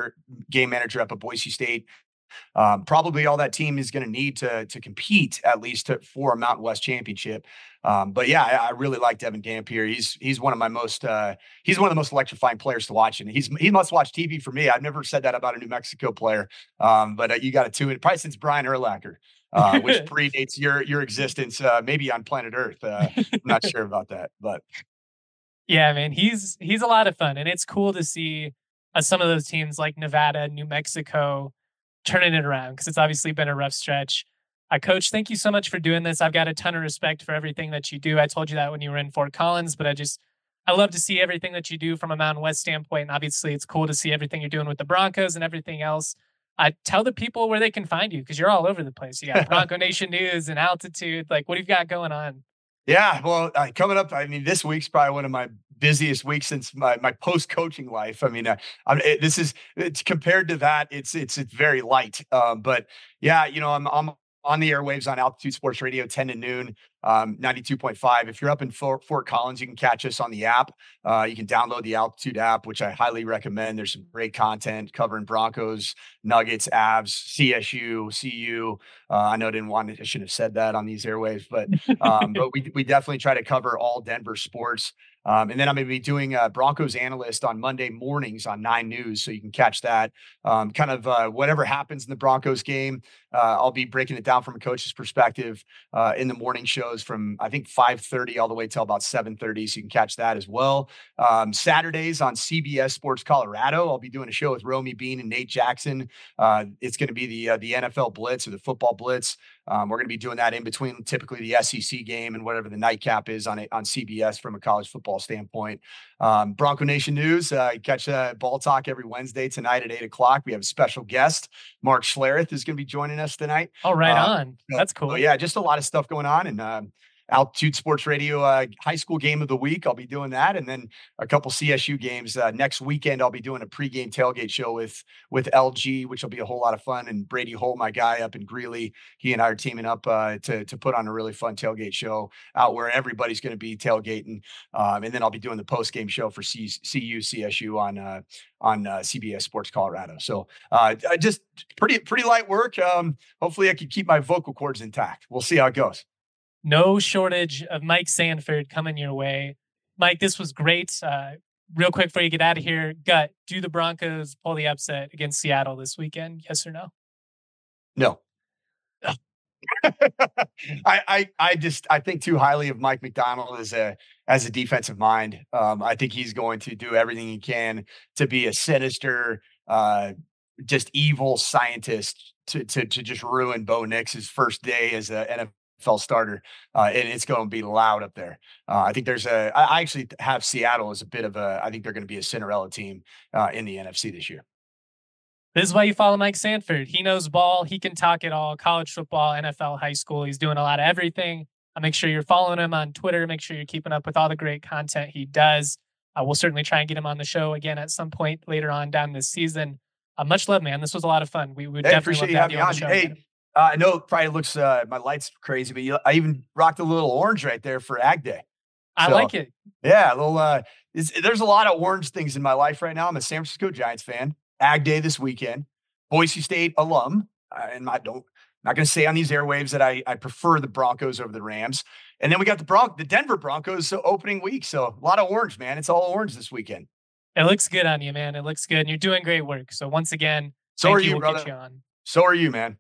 manager up at Boise State. Probably all that team is going to need to compete at least for a Mountain West championship. But yeah, I really like Devin Dampier. He's one of my most he's one of the most electrifying players to watch, and he must watch TV for me. I've never said that about a New Mexico player, but you got to tune in probably since Brian Urlacher. Which predates your existence, maybe on planet Earth. I'm not sure about that, but yeah, man, he's a lot of fun, and it's cool to see some of those teams like Nevada, New Mexico, turning it around because it's obviously been a rough stretch. Coach, thank you so much for doing this. I've got a ton of respect for everything that you do. I told you that when you were in Fort Collins, but I love to see everything that you do from a Mountain West standpoint, and obviously it's cool to see everything you're doing with the Broncos and everything else. Tell the people where they can find you because you're all over the place. You got Bronco Nation News and Altitude. Like, what have you got going on? Yeah, well, coming up, I mean, this week's probably one of my busiest weeks since my post-coaching life. I mean, it's compared to that, it's very light. But yeah, I'm on the airwaves on Altitude Sports Radio, 10 to noon, 92.5. If you're up in Fort Collins, you can catch us on the app. You can download the Altitude app, which I highly recommend. There's some great content covering Broncos, Nuggets, Avs, CSU, CU. I know I shouldn't have said that on these airwaves, but we definitely try to cover all Denver sports. And then I'm going to be doing a Broncos analyst on Monday mornings on 9 News. So you can catch that whatever happens in the Broncos game. I'll be breaking it down from a coach's perspective in the morning shows from, I think, 5:30 all the way till about 7:30. So you can catch that as well. Saturdays on CBS Sports Colorado, I'll be doing a show with Romy Bean and Nate Jackson. It's going to be the NFL Blitz or the football Blitz. We're going to be doing that in between typically the SEC game and whatever the nightcap is on CBS from a college football standpoint. Bronco Nation News, catch Ball Talk every Wednesday tonight at 8:00. We have a special guest. Mark Schlereth is going to be joining us tonight. Oh, right on. That's cool. Yeah, just a lot of stuff going on. And Altitude Sports Radio high school game of the week. I'll be doing that. And then a couple CSU games. Next weekend, I'll be doing a pregame tailgate show with LG, which will be a whole lot of fun. And Brady Holt, my guy up in Greeley, he and I are teaming up to put on a really fun tailgate show out where everybody's going to be tailgating. And then I'll be doing the post-game show for CU CSU on CBS Sports Colorado. So just pretty light work. Hopefully I can keep my vocal cords intact. We'll see how it goes. No shortage of Mike Sanford coming your way. Mike, this was great. real quick before you get out of here, Gut, do the Broncos pull the upset against Seattle this weekend? Yes or no? No. I think too highly of Mike Macdonald as a defensive mind. I think he's going to do everything he can to be a sinister, just evil scientist to just ruin Bo Nix's first day as an NFL starter. And it's going to be loud up there. I think I actually have Seattle as a bit of I think they're going to be a Cinderella team in the NFC this year. This is why you follow Mike Sanford. He knows ball. He can talk it all. College football, NFL, high school. He's doing a lot of everything. Make sure you're following him on Twitter. Make sure you're keeping up with all the great content he does. We'll certainly try and get him on the show again at some point later on down this season. Much love, man. This was a lot of fun. We would definitely love to have you on the show. Hey, I know it probably looks, my light's crazy, but I even rocked a little orange right there for Ag Day. I like it. Yeah, a little. There's a lot of orange things in my life right now. I'm a San Francisco Giants fan. Ag Day this weekend. Boise State alum, and not going to say on these airwaves that I prefer the Broncos over the Rams. And then we got the Denver Broncos opening week. So a lot of orange, man. It's all orange this weekend. It looks good on you, man. It looks good. And you're doing great work. So once again, so are you, we'll brother. get you on. So are you, man.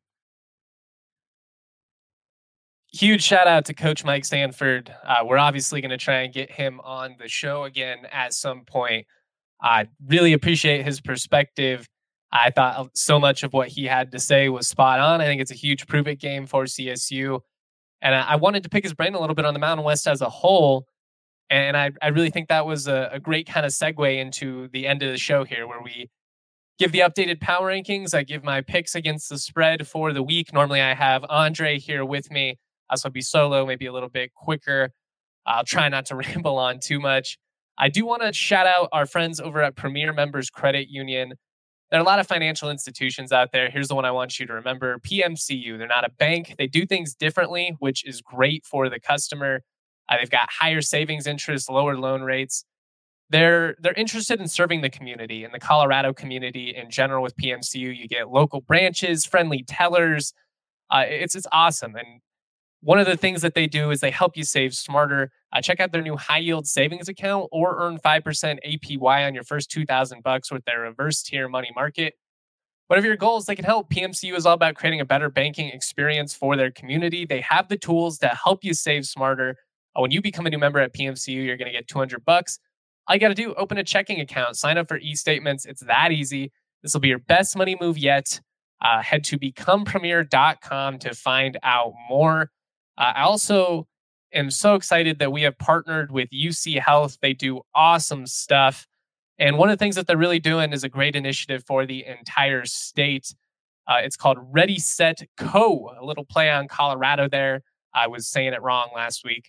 Huge shout out to Coach Mike Sanford. We're obviously going to try and get him on the show again at some point. I really appreciate his perspective. I thought so much of what he had to say was spot on. I think it's a huge prove-it game for CSU. And I wanted to pick his brain a little bit on the Mountain West as a whole. And I really think that was a great kind of segue into the end of the show here, where we give the updated power rankings. I give my picks against the spread for the week. Normally I have Andre here with me. So I'll be solo, maybe a little bit quicker. I'll try not to ramble on too much. I do want to shout out our friends over at Premier Members Credit Union. There are a lot of financial institutions out there. Here's the one I want you to remember. PMCU. They're not a bank. They do things differently, which is great for the customer. They've got higher savings interest, lower loan rates. They're interested in serving the community and the Colorado community in general. With PMCU, you get local branches, friendly tellers. It's awesome. And one of the things that they do is they help you save smarter. Check out their new high yield savings account or earn 5% APY on your first $2,000 with their reverse tier money market. Whatever your goals, they can help. PMCU is all about creating a better banking experience for their community. They have the tools to help you save smarter. When you become a new member at PMCU, you're going to get $200. All you got to do, open a checking account, sign up for e-statements. It's that easy. This will be your best money move yet. Head to becomepremier.com to find out more. I also am so excited that we have partnered with UC Health. They do awesome stuff. And one of the things that they're really doing is a great initiative for the entire state. It's called Ready, Set, Co. A little play on Colorado there. I was saying it wrong last week.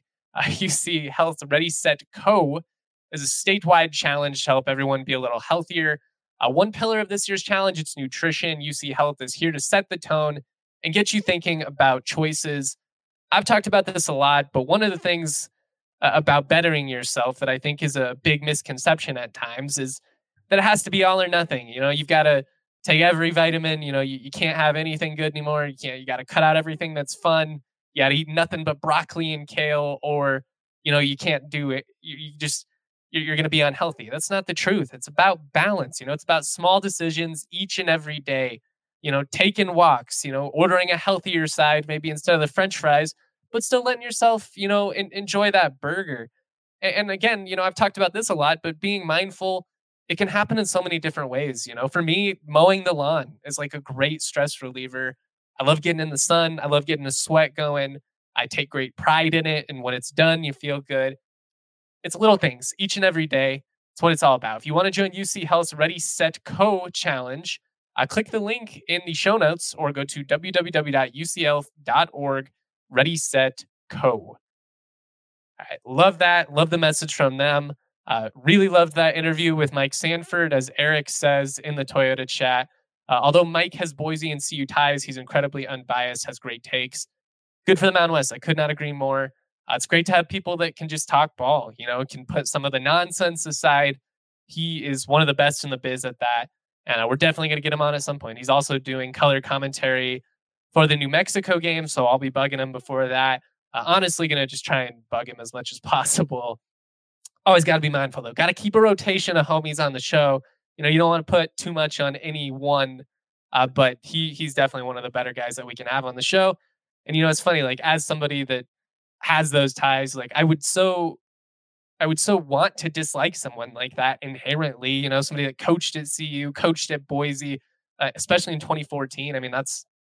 UC Health's Ready, Set, Co. is a statewide challenge to help everyone be a little healthier. One pillar of this year's challenge, it's nutrition. UC Health is here to set the tone and get you thinking about choices. I've talked about this a lot, but one of the things about bettering yourself that I think is a big misconception at times is that it has to be all or nothing. You know, you've got to take every vitamin. You know, you can't have anything good anymore. You got to cut out everything that's fun. You got to eat nothing but broccoli and kale, or, you know, you can't do it. You're going to be unhealthy. That's not the truth. It's about balance. You know, it's about small decisions each and every day. You know, taking walks, you know, ordering a healthier side, maybe instead of the French fries, but still letting yourself, you know, enjoy that burger. And again, you know, I've talked about this a lot, but being mindful, it can happen in so many different ways. You know, for me, mowing the lawn is like a great stress reliever. I love getting in the sun. I love getting the sweat going. I take great pride in it. And when it's done, you feel good. It's little things each and every day. It's what it's all about. If you want to join UC Health's Ready, Set, Co. challenge, click the link in the show notes or go to www.ucl.org, Ready, Set, Co. All right, love that. Love the message from them. Really loved that interview with Mike Sanford, as Eric says in the Toyota chat. Although Mike has Boise and CU ties, he's incredibly unbiased, has great takes. Good for the Mountain West. I could not agree more. It's great to have people that can just talk ball, you know, can put some of the nonsense aside. He is one of the best in the biz at that. And we're definitely going to get him on at some point. He's also doing color commentary for the New Mexico game, so I'll be bugging him before that. Honestly, going to just try and bug him as much as possible. Always got to be mindful, though. Got to keep a rotation of homies on the show. You know, you don't want to put too much on any one, but he's definitely one of the better guys that we can have on the show. And, you know, it's funny, like, as somebody that has those ties, like, I would so want to dislike someone like that inherently, you know, somebody that coached at CU, coached at Boise, especially in 2014. I mean,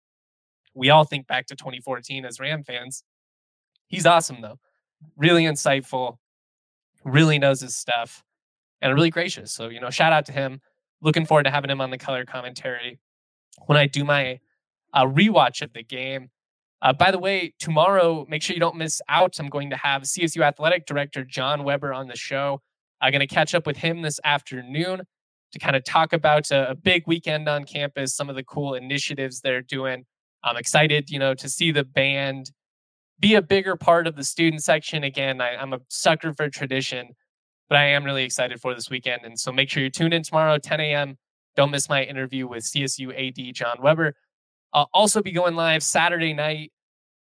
we all think back to 2014 as Ram fans. He's awesome, though. Really insightful, really knows his stuff, and really gracious. So, you know, shout out to him. Looking forward to having him on the color commentary when I do my rewatch of the game. By the way, tomorrow, make sure you don't miss out. I'm going to have CSU Athletic Director John Weber on the show. I'm going to catch up with him this afternoon to kind of talk about a big weekend on campus, some of the cool initiatives they're doing. I'm excited, you know, to see the band be a bigger part of the student section. Again, I'm a sucker for tradition, but I am really excited for this weekend. And so make sure you tune in tomorrow, 10 a.m. Don't miss my interview with CSU AD John Weber. I'll also be going live Saturday night,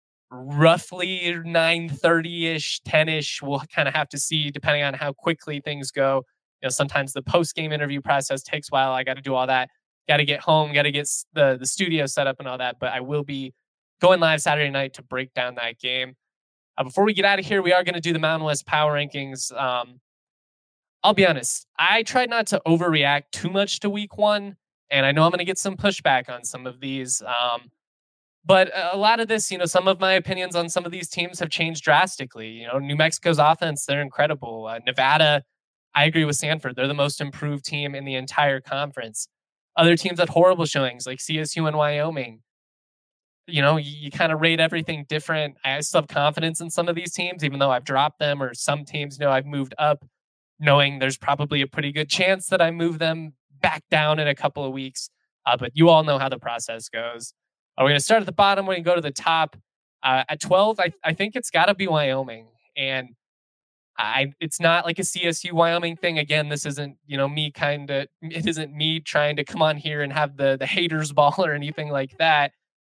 roughly 9:30-ish, 10-ish. We'll kind of have to see depending on how quickly things go. You know, sometimes the post-game interview process takes a while. I got to do all that. Got to get home, got to get the studio set up and all that. But I will be going live Saturday night to break down that game. Before we get out of here, we are going to do the Mountain West Power Rankings. I'll be honest, I tried not to overreact too much to week one. And I know I'm going to get some pushback on some of these. But a lot of this, you know, some of my opinions on some of these teams have changed drastically. You know, New Mexico's offense, they're incredible. Nevada, I agree with Sanford. They're the most improved team in the entire conference. Other teams had horrible showings like CSU and Wyoming. You know, you kind of rate everything different. I still have confidence in some of these teams, even though I've dropped them, or some teams know I've moved up, knowing there's probably a pretty good chance that I move them back down in a couple of weeks. But you all know how the process goes. We're going to start at the bottom. We're going to go to the top. At 12, I think it's got to be Wyoming. And it's not like a CSU Wyoming thing. Again, this isn't, you know, it isn't me trying to come on here and have the haters ball or anything like that.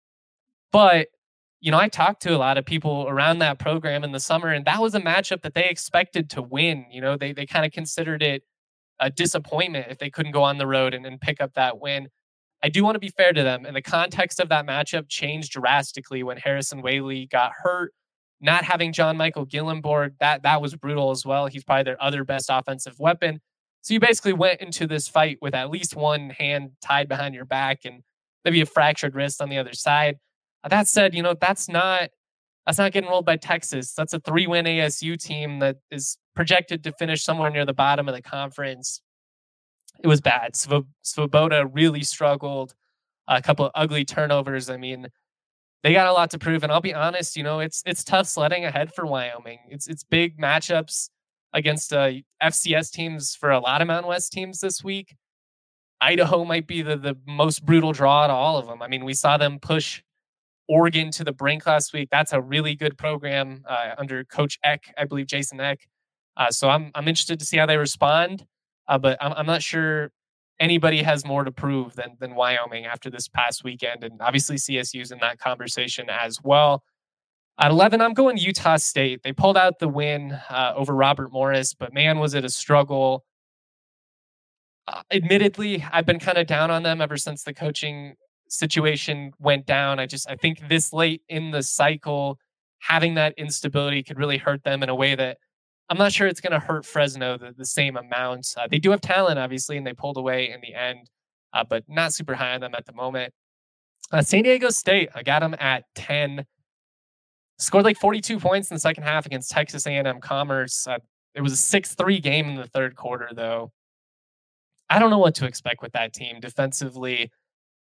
But, you know, I talked to a lot of people around that program in the summer, and that was a matchup that they expected to win. You know, they kind of considered it a disappointment if they couldn't go on the road and pick up that win. I do want to be fair to them. And the context of that matchup changed drastically when Harrison Whaley got hurt. Not having John Michael Gillenborg, that was brutal as well. He's probably their other best offensive weapon. So you basically went into this fight with at least one hand tied behind your back and maybe a fractured wrist on the other side. That said, you know, that's not getting rolled by Texas. That's a 3-win ASU team that is projected to finish somewhere near the bottom of the conference. It was bad. Svoboda really struggled. A couple of ugly turnovers. I mean, they got a lot to prove. And I'll be honest, you know, it's tough sledding ahead for Wyoming. It's big matchups against FCS teams for a lot of Mountain West teams this week. Idaho might be the most brutal draw out of all of them. I mean, we saw them push Oregon to the brink last week. That's a really good program under Coach Eck, I believe Jason Eck. So I'm interested to see how they respond. But I'm not sure anybody has more to prove than Wyoming after this past weekend. And obviously CSU's in that conversation as well. At 11, I'm going Utah State. They pulled out the win over Robert Morris, but man, was it a struggle. Admittedly, I've been kind of down on them ever since the coaching situation went down. I think this late in the cycle, having that instability could really hurt them in a way that I'm not sure it's going to hurt Fresno the same amount. They do have talent, obviously, and they pulled away in the end, but not super high on them at the moment. San Diego State, I got them at 10. Scored like 42 points in the second half against Texas A&M Commerce. It was a 6-3 game in the third quarter, though. I don't know what to expect with that team defensively.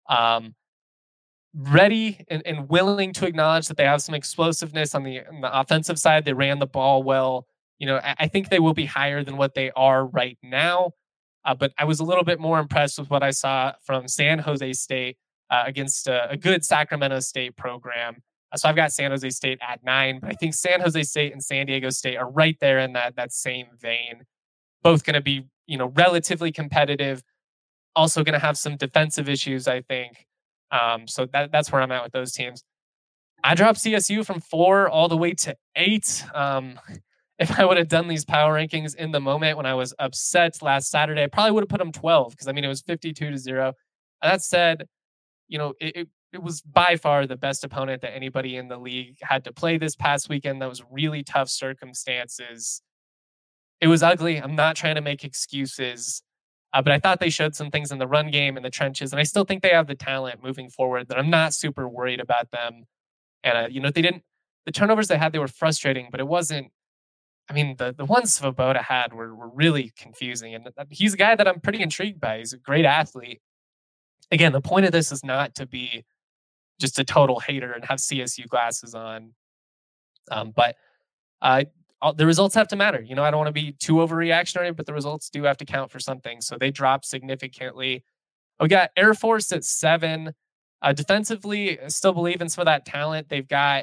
Ready and willing to acknowledge that they have some explosiveness on the offensive side. They ran the ball well. You know, I think they will be higher than what they are right now. But I was a little bit more impressed with what I saw from San Jose State against a good Sacramento State program. So I've got San Jose State at 9. But I think San Jose State and San Diego State are right there in that same vein. Both going to be, you know, relatively competitive. Also going to have some defensive issues, I think. So that's where I'm at with those teams. I dropped CSU from 4 all the way to 8. if I would have done these power rankings in the moment when I was upset last Saturday, I probably would have put them 12 because, I mean, it was 52-0. That said, it was by far the best opponent that anybody in the league had to play this past weekend. That was really tough circumstances. It was ugly. I'm not trying to make excuses, but I thought they showed some things in the run game in the trenches, and I still think they have the talent moving forward that I'm not super worried about them. And, the turnovers they had, they were frustrating, but it wasn't, I mean, the ones Svoboda had were really confusing. And he's a guy that I'm pretty intrigued by. He's a great athlete. Again, the point of this is not to be just a total hater and have CSU glasses on. But the results have to matter. I don't want to be too overreactionary, but the results do have to count for something. So they dropped significantly. We got Air Force at 7. Defensively, I still believe in some of that talent. They've got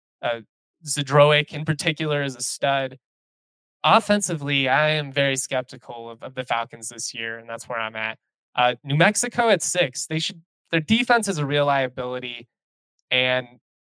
Zdroik in particular is a stud. Offensively, I am very skeptical of the Falcons this year, and that's where I'm at. New Mexico at 6. Their defense is a real liability, and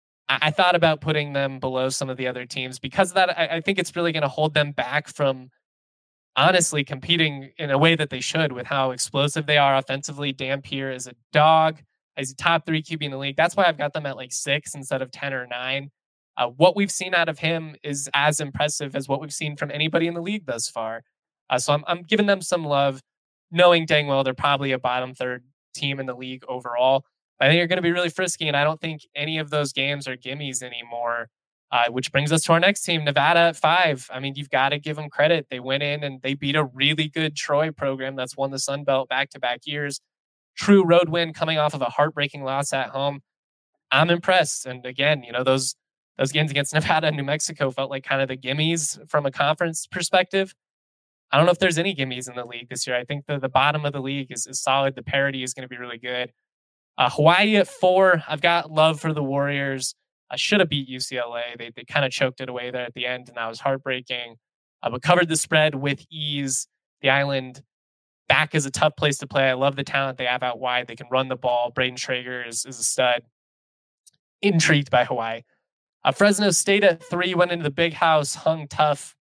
I thought about putting them below some of the other teams because of that. I think it's really going to hold them back from honestly competing in a way that they should with how explosive they are offensively. Dampier is a dog. He's a top 3 QB in the league. That's why I've got them at like 6 instead of 10 or 9. What we've seen out of him is as impressive as what we've seen from anybody in the league thus far. So I'm giving them some love, knowing dang well they're probably a bottom 3rd team in the league overall. I think they're going to be really frisky, and I don't think any of those games are gimmies anymore, which brings us to our next team, Nevada at 5. I mean, you've got to give them credit. They went in and they beat a really good Troy program that's won the Sun Belt back-to-back years. True road win coming off of a heartbreaking loss at home. I'm impressed. And again, those games against Nevada and New Mexico felt like kind of the gimmies from a conference perspective. I don't know if there's any gimmies in the league this year. I think the bottom of the league is solid. The parity is going to be really good. Hawaii at 4. I've got love for the Warriors. I should have beat UCLA. They kind of choked it away there at the end, and that was heartbreaking. But covered the spread with ease. The Island back is a tough place to play. I love the talent they have out wide. They can run the ball. Braden Traeger is a stud. Intrigued by Hawaii. Fresno State at 3 went into the big house, hung tough.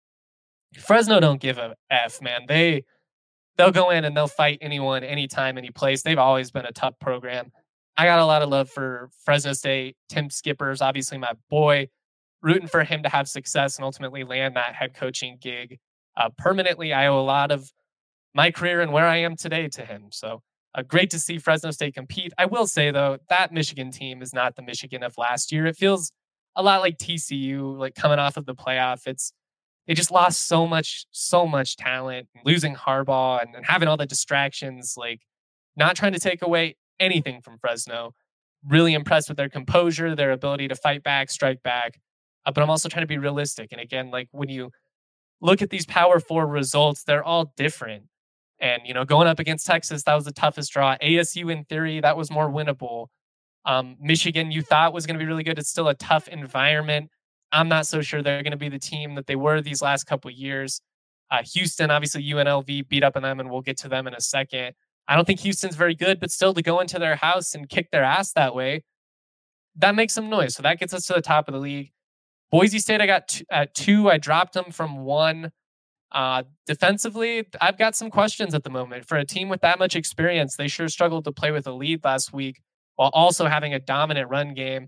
Fresno don't give a F, man. They'll go in and they'll fight anyone, anytime, any place. They've always been a tough program. I got a lot of love for Fresno State. Tim Skipper's obviously my boy. Rooting for him to have success and ultimately land that head coaching gig permanently. I owe a lot of my career and where I am today to him. So great to see Fresno State compete. I will say, though, that Michigan team is not the Michigan of last year. It feels a lot like TCU, like coming off of the playoff. They just lost so much talent, losing Harbaugh and having all the distractions, like not trying to take away anything from Fresno. Really impressed with their composure, their ability to fight back, strike back. But I'm also trying to be realistic. And again, like when you look at these Power 4 results, they're all different. And, going up against Texas, that was the toughest draw. ASU, in theory, that was more winnable. Michigan, you thought was going to be really good. It's still a tough environment. I'm not so sure they're going to be the team that they were these last couple of years. Houston, obviously UNLV beat up on them, and we'll get to them in a second. I don't think Houston's very good, but still to go into their house and kick their ass that way, that makes some noise. So that gets us to the top of the league. Boise State, I got at 2. I dropped them from 1. Defensively, I've got some questions at the moment. For a team with that much experience, they sure struggled to play with a lead last week while also having a dominant run game.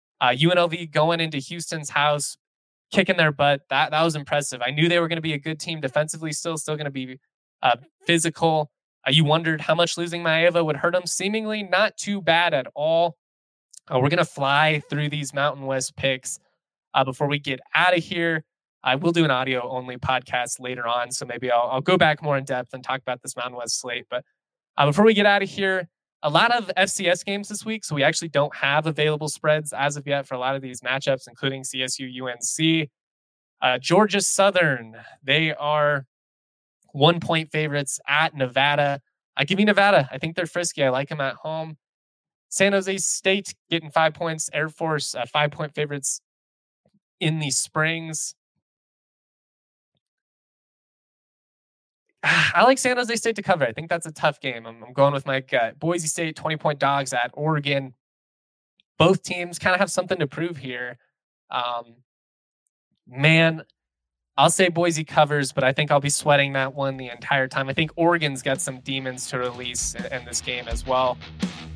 UNLV going into Houston's house, kicking their butt. That was impressive. I knew they were going to be a good team defensively, still going to be physical. You wondered how much losing Maeva would hurt them. Seemingly not too bad at all. We're going to fly through these Mountain West picks before we get out of here. I will do an audio-only podcast later on, so maybe I'll go back more in depth and talk about this Mountain West slate. But before we get out of here, a lot of FCS games this week, so we actually don't have available spreads as of yet for a lot of these matchups, including CSU, UNC. Georgia Southern, they are 1-point favorites at Nevada. I give you Nevada. I think they're frisky. I like them at home. San Jose State getting 5 points. Air Force, 5-point favorites in the Springs. I like San Jose State to cover. I think that's a tough game. I'm going with my gut. Boise State, 20-point dogs at Oregon. Both teams kind of have something to prove here. Man, I'll say Boise covers, but I think I'll be sweating that one the entire time. I think Oregon's got some demons to release in this game as well.